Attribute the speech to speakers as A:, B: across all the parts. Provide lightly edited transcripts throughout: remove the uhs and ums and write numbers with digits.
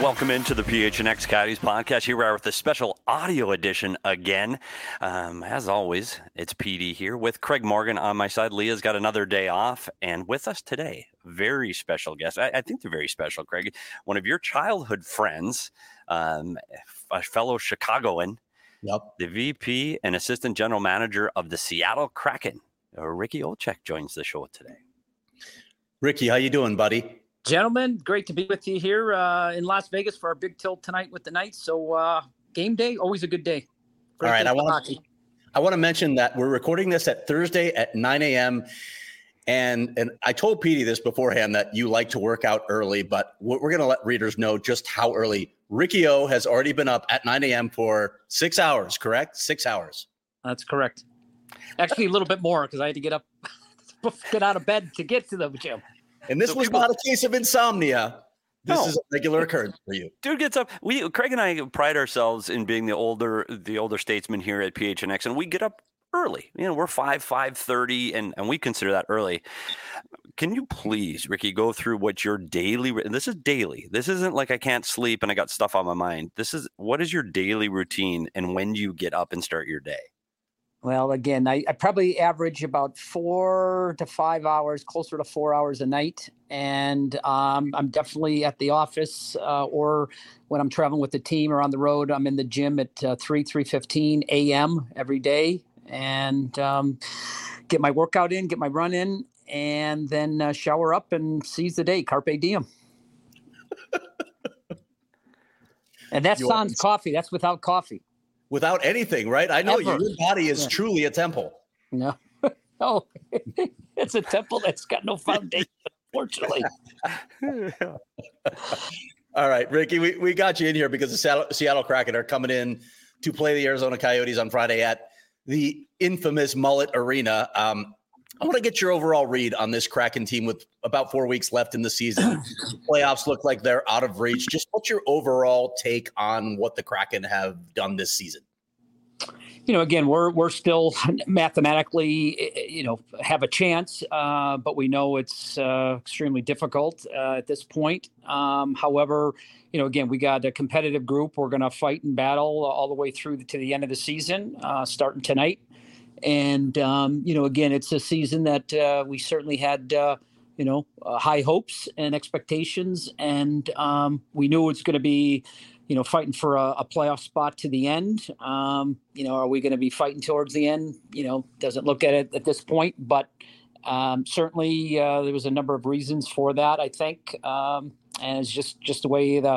A: Welcome into the PHNX Coyotes podcast. Here we are with a special audio edition again. As always, it's PD here with Craig Morgan on my side. Leah's got another day off, and with us today, very special guest. I think they're very special, Craig. One of your childhood friends, a fellow Chicagoan, the VP and Assistant General Manager of the Seattle Kraken, Ricky Olczyk, joins the show today.
B: Ricky, how you doing, buddy?
C: Gentlemen, great to be with you here in Las Vegas for our big tilt tonight with the Knights. So game day, always a good day.
B: Great. All right, I want to mention that we're recording this at Thursday at 9 a.m. And I told Petey this beforehand that you like to work out early, but we're going to let readers know just how early. Ricky O has already been up at 9 a.m. for 6 hours, correct? 6 hours.
C: That's correct. Actually, a little bit more because I had to get up, get out of bed to get to the gym.
B: And this was not a case of insomnia. This is a regular occurrence for you.
A: Dude gets up. Craig and I pride ourselves in being the older statesmen here at PHNX, and we get up early. You know, we're 5:30, and we consider that early. Can you please, Ricky, go through what your daily? This is daily. This isn't like I can't sleep and I got stuff on my mind. What is your daily routine, and when do you get up and start your day?
C: Well, again, I probably average about 4 to 5 hours, closer to 4 hours a night. And I'm definitely at the office or when I'm traveling with the team or on the road, I'm in the gym at 3:15 a.m. every day and get my workout in, get my run in, and then shower up and seize the day. Carpe diem. And that's sans coffee. That's without coffee.
B: Without anything, right? I know your body is truly a temple.
C: No, no, it's a temple that's got no foundation, unfortunately.
B: All right, Ricky, we got you in here because the Seattle Kraken are coming in to play the Arizona Coyotes on Friday at the infamous Mullet Arena. I want to get your overall read on this Kraken team with about 4 weeks left in the season. Playoffs look like they're out of reach. Just what's your overall take on what the Kraken have done this season?
C: You know, again, we're still mathematically, have a chance, but we know it's extremely difficult at this point. However, again, we got a competitive group. We're going to fight and battle all the way through to the end of the season, starting tonight. And, again, it's a season that we certainly had, high hopes and expectations. And we knew it's going to be, fighting for a playoff spot to the end. Are we going to be fighting towards the end? Doesn't look at it at this point. But certainly there was a number of reasons for that, I think. And it's just the way the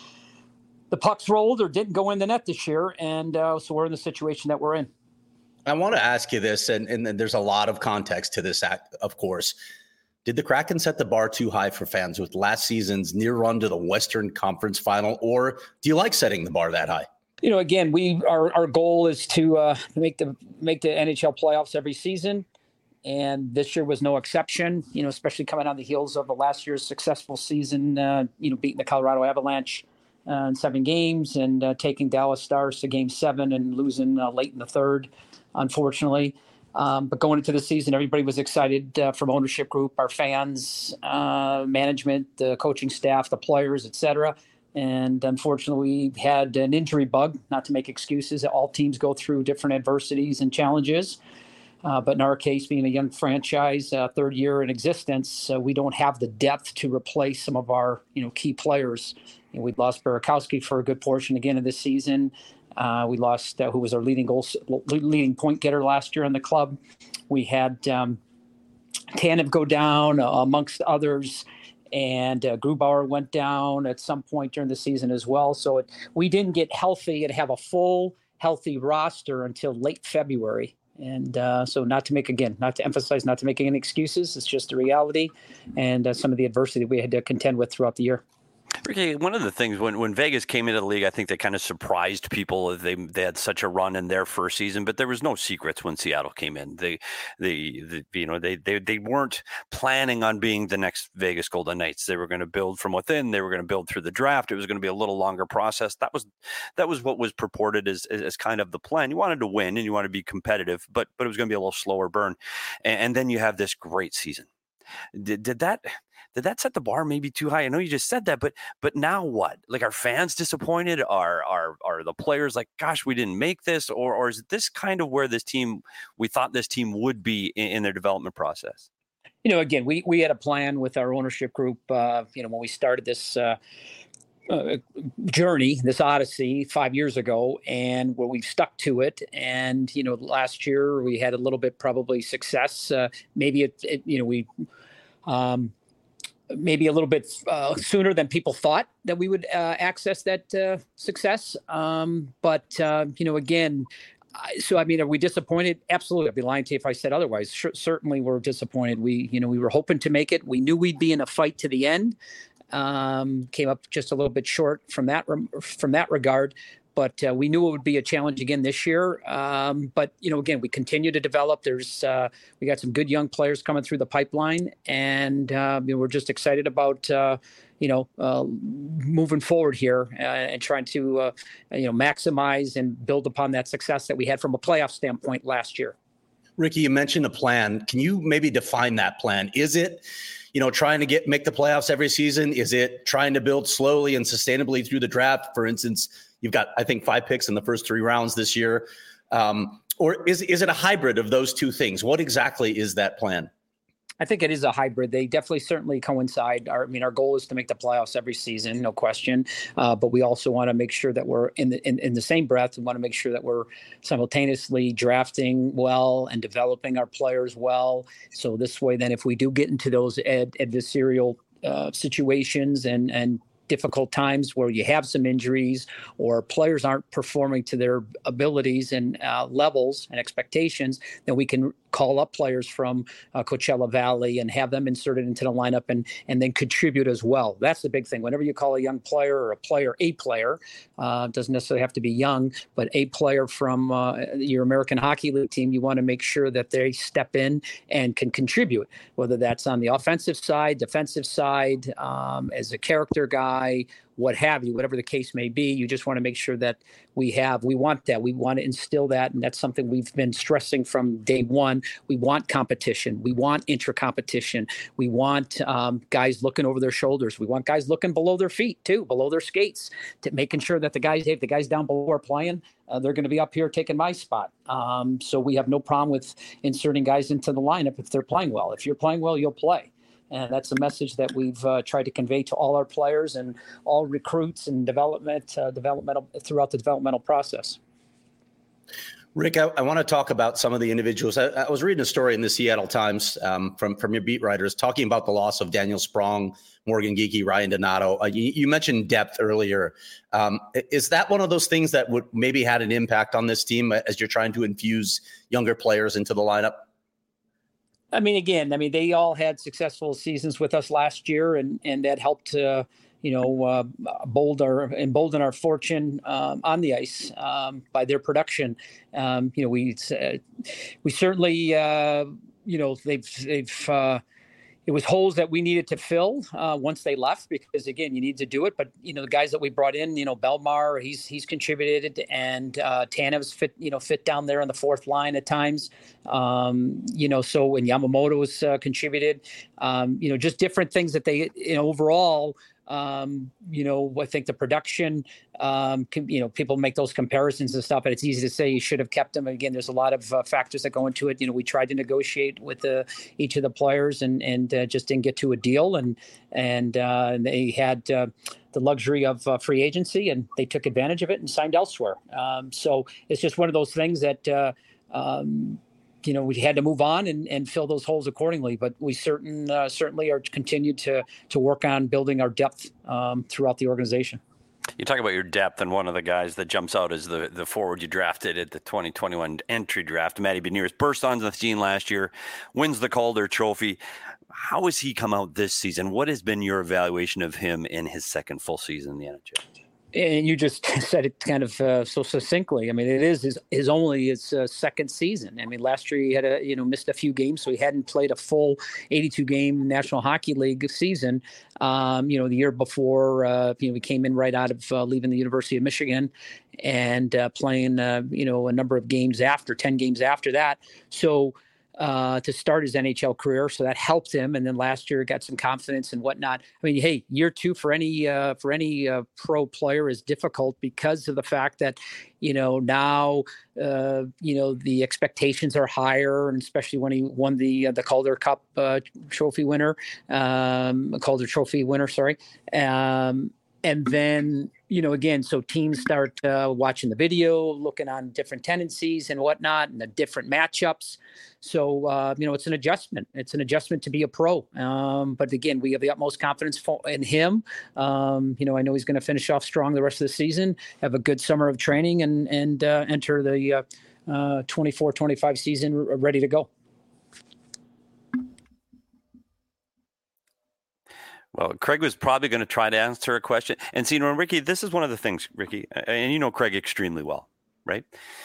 C: pucks rolled or didn't go in the net this year. And so we're in the situation that we're in.
B: I want to ask you this, and there's a lot of context to this, of course. Did the Kraken set the bar too high for fans with last season's near run to the Western Conference Final, or do you like setting the bar that high?
C: Again, our goal is to make the NHL playoffs every season, and this year was no exception. Especially coming on the heels of last year's successful season. Beating the Colorado Avalanche in 7 games and taking Dallas Stars to Game 7 and losing late in the third, unfortunately. But going into the season, everybody was excited from ownership group, our fans, management, the coaching staff, the players, et cetera. And unfortunately, we had an injury bug, not to make excuses. All teams go through different adversities and challenges. But in our case, being a young franchise, third year in existence, we don't have the depth to replace some of our key players. We'd lost Burakovsky for a good portion again of this season. We lost who was our leading point getter last year in the club. We had Tanev go down amongst others, and Grubauer went down at some point during the season as well. So we didn't get healthy and have a full healthy roster until late February. And so not to emphasize, not to make any excuses. It's just the reality and some of the adversity we had to contend with throughout the year.
A: Ricky, one of the things when Vegas came into the league, I think they kind of surprised people. They had such a run in their first season, but there was no secrets when Seattle came in. They weren't planning on being the next Vegas Golden Knights. They were going to build from within. They were going to build through the draft. It was going to be a little longer process. That was what was purported as kind of the plan. You wanted to win and you wanted to be competitive, but it was going to be a little slower burn. And then you have this great season. Did that did that set the bar maybe too high? I know you just said that, but now what? Like, are fans disappointed? Are the players like, gosh, we didn't make this, or is this kind of where we thought this team would be in their development process?
C: Again, we had a plan with our ownership group, when we started this journey, this odyssey 5 years ago, and where we've stuck to it. And, last year we had a little bit probably success. Maybe maybe a little bit sooner than people thought that we would access that success. But again, are we disappointed? Absolutely. I'd be lying to you if I said otherwise. Certainly we're disappointed. We were hoping to make it. We knew we'd be in a fight to the end. Came up just a little bit short from that regard. But we knew it would be a challenge again this year. But again, we continue to develop. We got some good young players coming through the pipeline, and we're just excited about moving forward here and trying to maximize and build upon that success that we had from a playoff standpoint last year.
B: Ricky, you mentioned a plan. Can you maybe define that plan? Is it trying to make the playoffs every season? Is it trying to build slowly and sustainably through the draft? For instance, you've got, I think, 5 picks in the first 3 rounds this year. Or is it a hybrid of those two things? What exactly is that plan?
C: I think it is a hybrid. They definitely certainly coincide. Our goal is to make the playoffs every season, no question. But we also want to make sure that we're in the same breath. We want to make sure that we're simultaneously drafting well and developing our players well. So this way, then, if we do get into those adversarial situations and difficult times where you have some injuries or players aren't performing to their abilities and levels and expectations, then we can call up players from Coachella Valley and have them inserted into the lineup and then contribute as well. That's the big thing. Whenever you call a young player or a player, doesn't necessarily have to be young, but a player from your American Hockey League team, you want to make sure that they step in and can contribute, whether that's on the offensive side, defensive side, as a character guy, what have you, whatever the case may be. You just want to make sure that we want that. We want to instill that. And that's something we've been stressing from day one. We want competition. We want intra-competition. We want guys looking over their shoulders. We want guys looking below their feet too, below their skates, to making sure that the guys down below are playing. They're going to be up here taking my spot. So we have no problem with inserting guys into the lineup if they're playing well. If you're playing well, you'll play. And that's a message that we've tried to convey to all our players and all recruits and developmental throughout the developmental process.
B: Rick, I want to talk about some of the individuals. I was reading a story in the Seattle Times from your beat writers talking about the loss of Daniel Sprong, Morgan Geekie, Ryan Donato. You mentioned depth earlier. Is that one of those things that would maybe had an impact on this team as you're trying to infuse younger players into the lineup?
C: They all had successful seasons with us last year, and that helped embolden our fortune on the ice by their production. We certainly, it was holes that we needed to fill once they left, because again, you need to do it. But the guys that we brought in, Belmar, he's contributed, and Tanev's fit down there on the fourth line at times. And Yamamoto's contributed. Just different things that they overall. I think the production, people make those comparisons and stuff, and it's easy to say you should have kept them. Again, there's a lot of factors that go into it. We tried to negotiate with each of the players and just didn't get to a deal. And they had the luxury of free agency, and they took advantage of it and signed elsewhere. So it's just one of those things that, we had to move on and fill those holes accordingly. But we certainly are continued to work on building our depth throughout the organization.
A: You talk about your depth, and one of the guys that jumps out is the forward you drafted at the 2021 entry draft, Matty Beniers. Burst onto the scene last year, wins the Calder Trophy. How has he come out this season? What has been your evaluation of him in his second full season in the NHL?
C: And you just said it kind of so succinctly. It is his second season. Last year he had missed a few games, so he hadn't played a full 82-game National Hockey League season. The year before, we came in right out of leaving the University of Michigan and playing, a number of games 10 games after that. So, to start his NHL career, so that helped him. And then last year got some confidence and whatnot. I mean, hey, year two for any pro player is difficult because of the fact that now the expectations are higher, and especially when he won the Calder Cup trophy winner, Calder Trophy winner, sorry. And then, again, so teams start watching the video, looking on different tendencies and whatnot, and the different matchups. So, it's an adjustment. It's an adjustment to be a pro. But again, we have the utmost confidence in him. I know he's going to finish off strong the rest of the season, have a good summer of training, and enter the 24-25 season ready to go.
A: Well, Craig was probably going to try to answer a question. And see, Ricky, this is one of the things, Ricky, and you know Craig extremely well, right?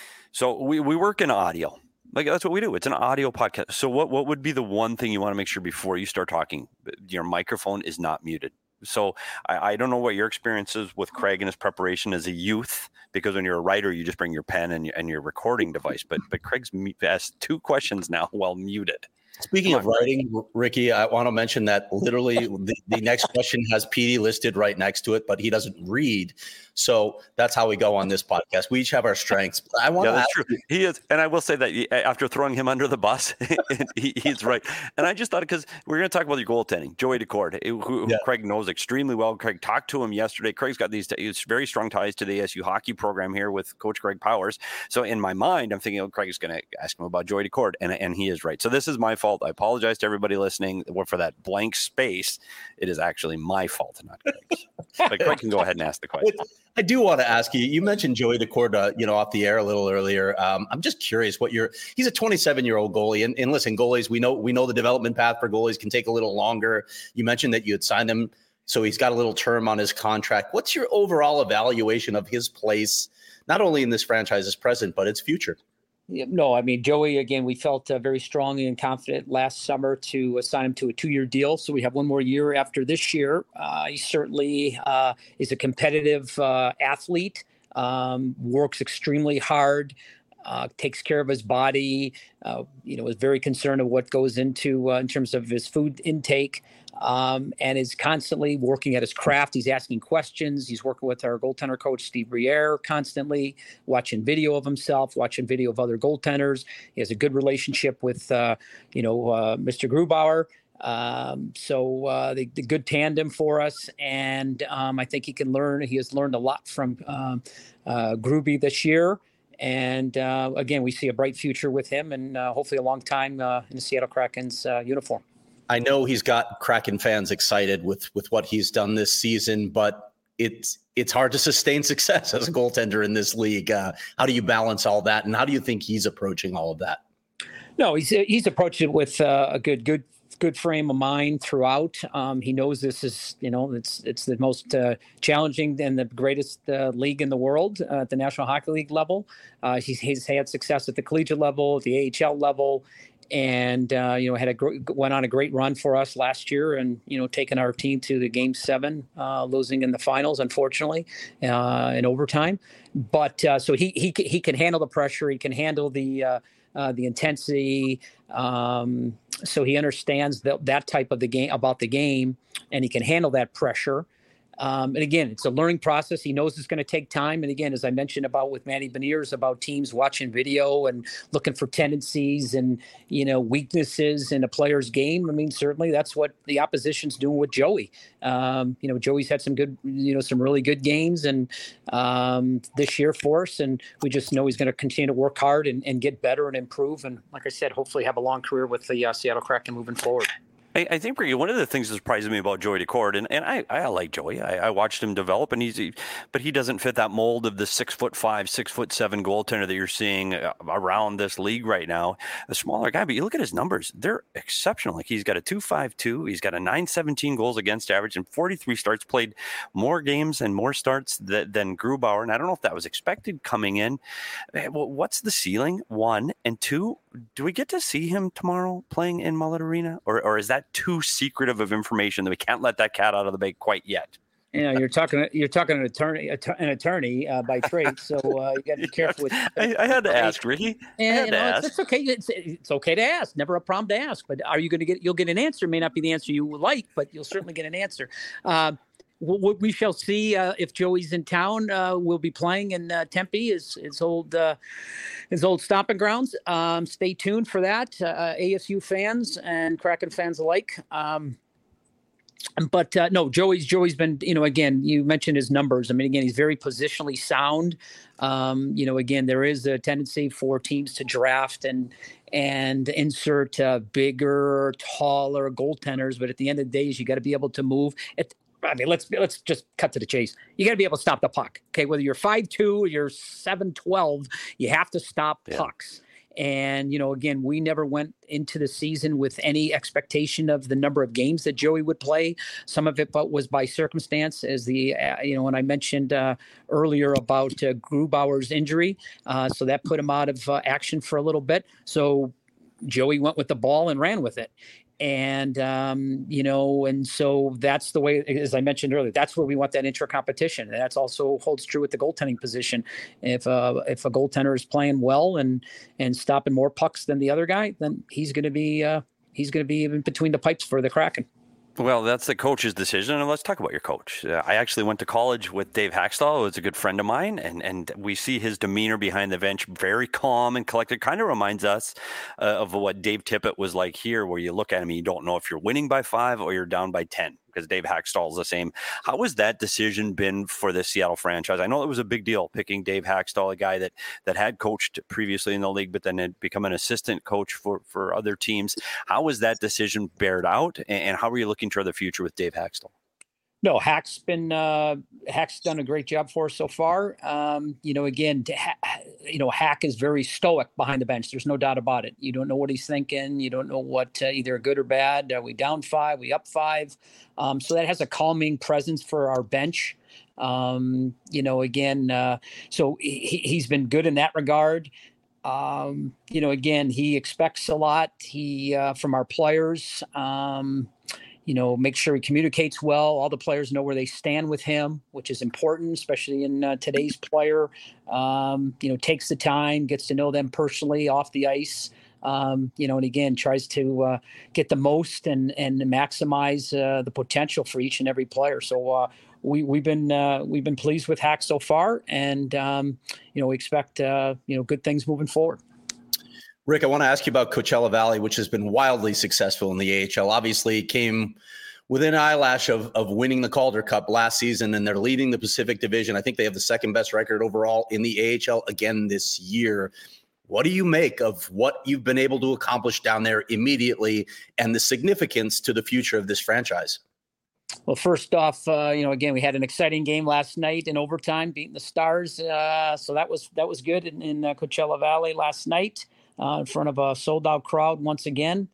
A: So we work in audio. Like, that's what we do. It's an audio podcast. So what would be the one thing you want to make sure before you start talking, your microphone is not muted? So I don't know what your experience is with Craig and his preparation as a youth, because when you're a writer, you just bring your pen and your recording device. But Craig's asked 2 questions now while muted.
B: Speaking of writing, Ricky, I want to mention that literally the next question has PD listed right next to it, but he doesn't read. So that's how we go on this podcast. We each have our strengths.
A: That's true. He is. And I will say that after throwing him under the bus, he's right. And I just thought, because we're going to talk about your goaltending, Joey Daccord, who Craig knows extremely well. Craig talked to him yesterday. Craig's got these very strong ties to the ASU hockey program here with Coach Greg Powers. So in my mind, I'm thinking, Craig's going to ask him about Joey Daccord, and he is right. So this is my fault. I apologize to everybody listening for that blank space. It is actually my fault, not Craig's. But Craig can go ahead and ask the question.
B: I do want to ask you. You mentioned Joey Daccord, off the air a little earlier. I'm just curious he's a 27-year-old goalie, and listen, goalies, we know the development path for goalies can take a little longer. You mentioned that you had signed him, so he's got a little term on his contract. What's your overall evaluation of his place, not only in this franchise's present, but its future?
C: No, I mean, Joey, again, we felt very strongly and confident last summer to assign him to a 2-year deal. So we have 1 more year after this year. He certainly is a competitive athlete, works extremely hard, takes care of his body, is very concerned of what goes into in terms of his food intake. And is constantly working at his craft. He's asking questions. He's working with our goaltender coach, Steve Briere, constantly watching video of himself, watching video of other goaltenders. He has a good relationship with, Mr. Grubauer. So the good tandem for us. And I think he has learned a lot from Gruby this year. And again, we see a bright future with him, and hopefully a long time in the Seattle Kraken's uniform.
B: I know he's got Kraken fans excited with what he's done this season, but it's hard to sustain success as a goaltender in this league. How do you balance all that, and how do you think he's approaching all of that?
C: No, he's approached it with a good frame of mind throughout. He knows this is, it's the most challenging and the greatest league in the world at the National Hockey League level. He's had success at the collegiate level, at the AHL level. And, went on a great run for us last year and, taking our team to the Game 7, losing in the finals, unfortunately, in overtime. But so he can handle the pressure. He can handle the intensity. So he understands that type of the game, about the game, and he can handle that pressure. And again, it's a learning process. He knows it's going to take time. And again, as I mentioned about with Manny Beniers, about teams watching video and looking for tendencies and, weaknesses in a player's game. I mean, certainly that's what the opposition's doing with Joey. Joey's had some good, some really good games and this year for us. And we just know he's going to continue to work hard and get better and improve. And like I said, hopefully have a long career with the Seattle Kraken moving forward.
A: I think one of the things that surprises me about Joey Daccord, and I like Joey. I watched him develop, but he doesn't fit that mold of the 6'5", 6'7" goaltender that you're seeing around this league right now. A smaller guy, but you look at his numbers; they're exceptional. Like, he's got a 2.52, he's got a 917 goals against average, and 43 starts. Played more games and more starts than Grubauer, and I don't know if that was expected coming in. What's the ceiling? 1 and 2. Do we get to see him tomorrow playing in Mullet Arena, or is that too secretive of information that we can't let that cat out of the bag quite yet?
C: You're talking an attorney by trade, so you got to be careful with.
A: I had to ask, Ricky.
C: And it's okay. It's okay to ask. Never a problem to ask. But are you going to get? You'll get an answer. It may not be the answer you would like, but you'll certainly get an answer. We shall see if Joey's in town. We'll be playing in Tempe, his old stomping grounds. Stay tuned for that, ASU fans and Kraken fans alike. But no, Joey's been, again, you mentioned his numbers. I mean, again, he's very positionally sound. Again, there is a tendency for teams to draft and insert bigger, taller goaltenders. But at the end of the day, you got to be able to move. Let's just cut to the chase. You got to be able to stop the puck. Okay, whether you're 5'2" or you're 7'12", you have to stop pucks. And, again, we never went into the season with any expectation of the number of games that Joey would play. Some of it was by circumstance, as when I mentioned earlier about Grubauer's injury. So that put him out of action for a little bit. So Joey went with the ball and ran with it. And, and so that's the way, as I mentioned earlier, that's where we want that intra-competition. And that's also holds true with the goaltending position. If a goaltender is playing well and stopping more pucks than the other guy, then he's going to be in between the pipes for the Kraken.
A: Well, that's the coach's decision, and let's talk about your coach. I actually went to college with Dave Haxtell, who was a good friend of mine, and we see his demeanor behind the bench, very calm and collected. Kind of reminds us of what Dave Tippett was like here, where you look at him and you don't know if you're winning by 5 or you're down by 10, because Dave Haxtell is the same. How has that decision been for the Seattle franchise? I know it was a big deal picking Dave Haxtell, a guy that had coached previously in the league, but then had become an assistant coach for other teams. How was that decision bared out, and how are you looking toward the future with Dave Haxtell?
C: No, Hack's done a great job for us so far. Hack is very stoic behind the bench. There's no doubt about it. You don't know what he's thinking. You don't know what either good or bad. Are we down 5? We up 5? So that has a calming presence for our bench. So he's been good in that regard. He expects a lot. From our players. Make sure he communicates well. All the players know where they stand with him, which is important, especially in today's player. Takes the time, gets to know them personally off the ice. And again, tries to get the most and maximize the potential for each and every player. So we've been pleased with Hack so far, and we expect good things moving forward.
B: Rick, I want to ask you about Coachella Valley, which has been wildly successful in the AHL. Obviously, came within an eyelash of winning the Calder Cup last season, and they're leading the Pacific Division. I think they have the second best record overall in the AHL again this year. What do you make of what you've been able to accomplish down there immediately, and the significance to the future of this franchise?
C: Well, first off, again, we had an exciting game last night in overtime, beating the Stars. So that was good in Coachella Valley last night. In front of a sold-out crowd once again.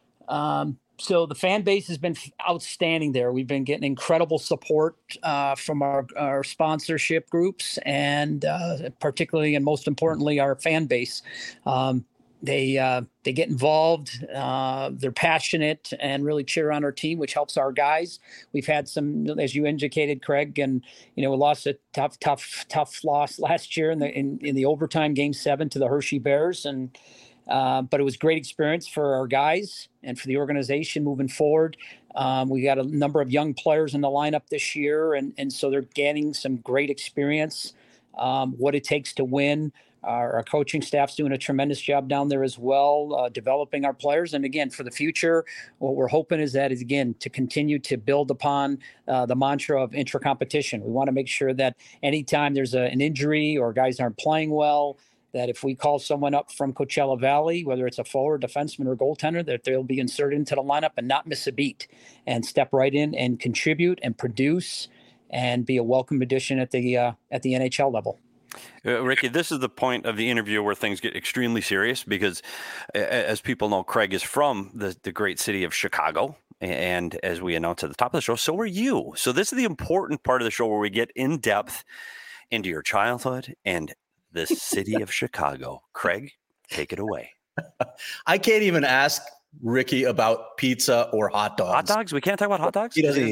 C: So the fan base has been outstanding there. We've been getting incredible support from our sponsorship groups, and particularly and most importantly, our fan base. They get involved. They're passionate and really cheer on our team, which helps our guys. We've had some, as you indicated, Craig, and we lost a tough loss last year in the overtime Game 7 to the Hershey Bears, but it was a great experience for our guys and for the organization moving forward. We got a number of young players in the lineup this year, and so they're getting some great experience. What it takes to win. Our coaching staff's doing a tremendous job down there as well, developing our players. And again, for the future, what we're hoping is again, to continue to build upon the mantra of intra-competition. We want to make sure that anytime there's an injury or guys aren't playing well, that if we call someone up from Coachella Valley, whether it's a forward, defenseman, or goaltender, that they'll be inserted into the lineup and not miss a beat and step right in and contribute and produce and be a welcome addition at the NHL level.
A: Ricky, this is the point of the interview where things get extremely serious because, as people know, Craig is from the great city of Chicago. And as we announced at the top of the show, so are you. So this is the important part of the show where we get in depth into your childhood and the city of Chicago. Craig, take it away.
B: I can't even ask Ricky about pizza or hot dogs.
A: Hot dogs? We can't talk about hot dogs?
B: He doesn't eat.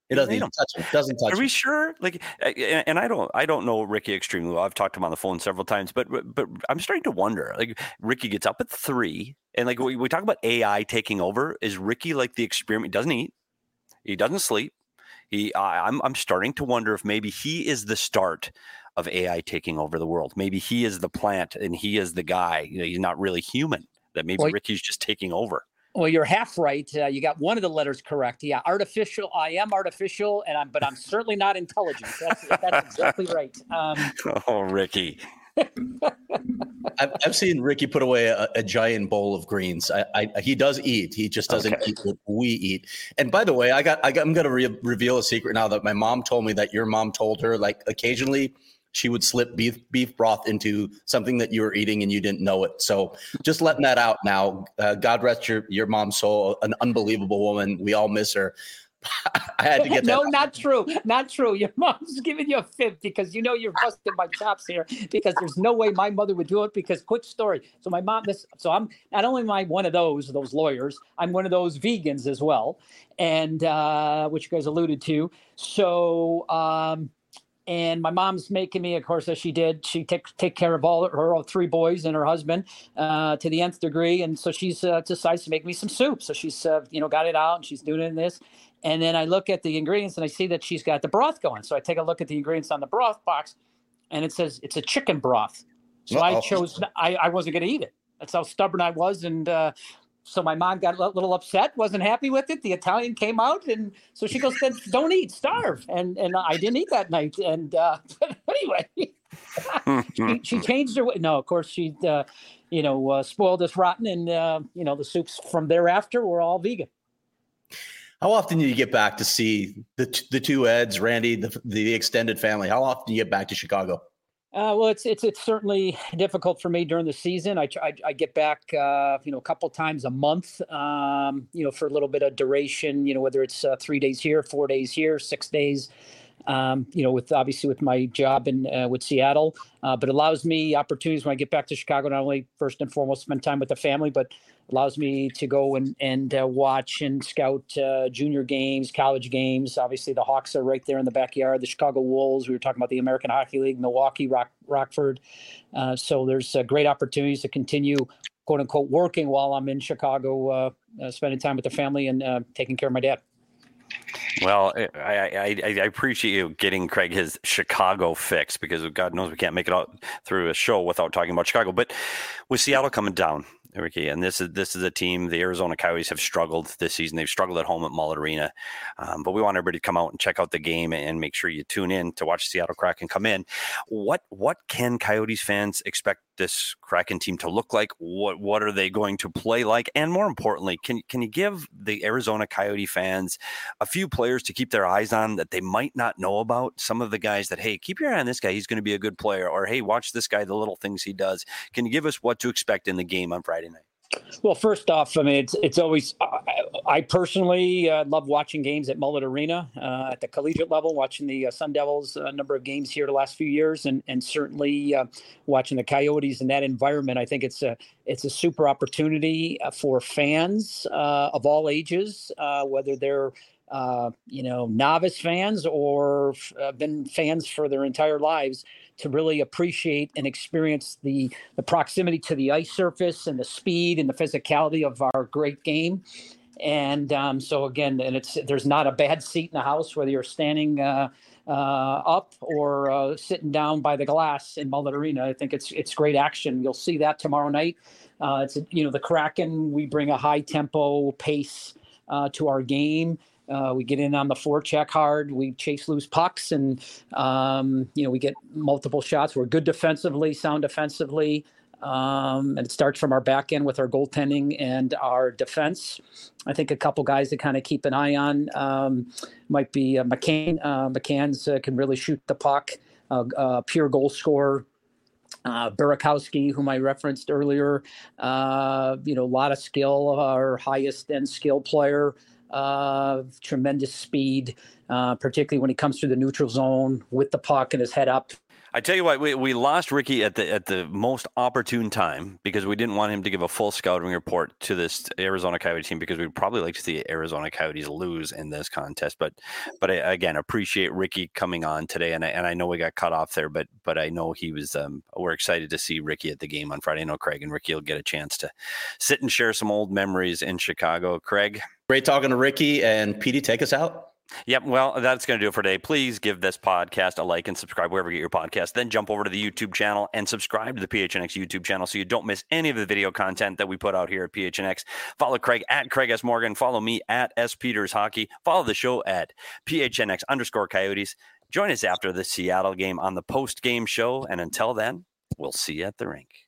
B: It doesn't even touch him. Doesn't touch him.
A: Are we sure? Like, and I don't know Ricky extremely well. I've talked to him on the phone several times, but I'm starting to wonder. Like, Ricky gets up at 3, and like we talk about AI taking over. Is Ricky like the experiment? He doesn't eat. He doesn't sleep. I'm starting to wonder if maybe he is the start of AI taking over the world. Maybe he is the plant, and he is the guy. He's not really human. That maybe Ricky's just taking over.
C: Well, you're half right. You got one of the letters correct. Yeah, artificial. I am artificial, but I'm certainly not intelligent. That's exactly right.
A: Oh, Ricky.
B: I've seen Ricky put away a giant bowl of greens. He does eat. He just doesn't eat what we eat. And by the way, I'm going to reveal a secret now that my mom told me that your mom told her. Like occasionally, she would slip beef broth into something that you were eating and you didn't know it. So just letting that out now. God rest your mom's soul. An unbelievable woman. We all miss her. I had to get that.
C: No, not true. Not true. Your mom's giving you a fib because you're busting my chops here because there's no way my mother would do it because quick story. So my mom, so I'm not only am I one of those lawyers, I'm one of those vegans as well. And, which you guys alluded to. So, and my mom's making me, of course, as she did, she take care of all her 3 boys and her husband to the nth degree. And so she's decides to make me some soup. So she's, got it out and she's doing it in this. And then I look at the ingredients and I see that she's got the broth going. So I take a look at the ingredients on the broth box and it says it's a chicken broth. So I chose, I wasn't going to eat it. That's how stubborn I was. And so my mom got a little upset, wasn't happy with it. The Italian came out, and so she goes, "Then don't eat, starve." And I didn't eat that night. And but anyway, she changed her way. No, of course she, spoiled us rotten, and the soups from thereafter were all vegan.
B: How often do you get back to see the 2 Eds, Randy, the extended family? How often do you get back to Chicago?
C: Well, it's certainly difficult for me during the season. I get back, a couple times a month, for a little bit of duration, whether it's 3 days here, 4 days here, 6 days, with my job in with Seattle, but it allows me opportunities when I get back to Chicago, not only first and foremost spend time with the family, but allows me to go and watch and scout junior games, college games. Obviously, the Hawks are right there in the backyard. The Chicago Wolves. We were talking about the American Hockey League, Milwaukee, Rockford. So there's great opportunities to continue, quote unquote, working while I'm in Chicago, spending time with the family and taking care of my dad.
A: Well, I appreciate you getting Craig his Chicago fix because God knows we can't make it out through a show without talking about Chicago. But with Seattle coming down, Ricky, and this is a team, the Arizona Coyotes have struggled this season. They've struggled at home at Mullet Arena. But we want everybody to come out and check out the game and make sure you tune in to watch Seattle Kraken come in. What can Coyotes fans expect this Kraken team to look like? What are they going to play like? And more importantly, can you give the Arizona Coyote fans a few players to keep their eyes on that they might not know about? Some of the guys that, hey, keep your eye on this guy. He's going to be a good player. Or, hey, watch this guy, the little things he does. Can you give us what to expect in the game on Friday night?
C: Well, first off, I mean, it's always, I personally love watching games at Mullet Arena at the collegiate level, watching the Sun Devils a number of games here the last few years, and certainly watching the Coyotes in that environment. I think it's a super opportunity for fans of all ages, whether they're novice fans or been fans for their entire lives, to really appreciate and experience the proximity to the ice surface and the speed and the physicality of our great game. And so again, there's not a bad seat in the house, whether you're standing up or sitting down by the glass in Mullet Arena. I think it's great action. You'll see that tomorrow night. The Kraken, we bring a high tempo pace to our game. We get in on the forecheck hard. We chase loose pucks, and we get multiple shots. We're good defensively, sound defensively, and it starts from our back end with our goaltending and our defense. I think a couple guys to kind of keep an eye on might be McCann. McCann's can really shoot the puck. Pure goal scorer. Burakovsky, whom I referenced earlier, a lot of skill. Our highest end skill player. Tremendous speed, particularly when he comes through the neutral zone with the puck and his head up.
A: I tell you what, we lost Ricky at the most opportune time because we didn't want him to give a full scouting report to this Arizona Coyote team because we'd probably like to see Arizona Coyotes lose in this contest. But I, again, appreciate Ricky coming on today, and I know we got cut off there, but I know he was. We're excited to see Ricky at the game on Friday. I know Craig and Ricky will get a chance to sit and share some old memories in Chicago. Craig,
B: great talking to Ricky, and PD, take us out.
A: Yep. Well, that's going to do it for today. Please give this podcast a like and subscribe wherever you get your podcast. Then jump over to the YouTube channel and subscribe to the PHNX YouTube channel so you don't miss any of the video content that we put out here at PHNX. Follow Craig at Craig S. Morgan. Follow me at S. Peters Hockey. Follow the show at PHNX_Coyotes. Join us after the Seattle game on the post-game show. And until then, we'll see you at the rink.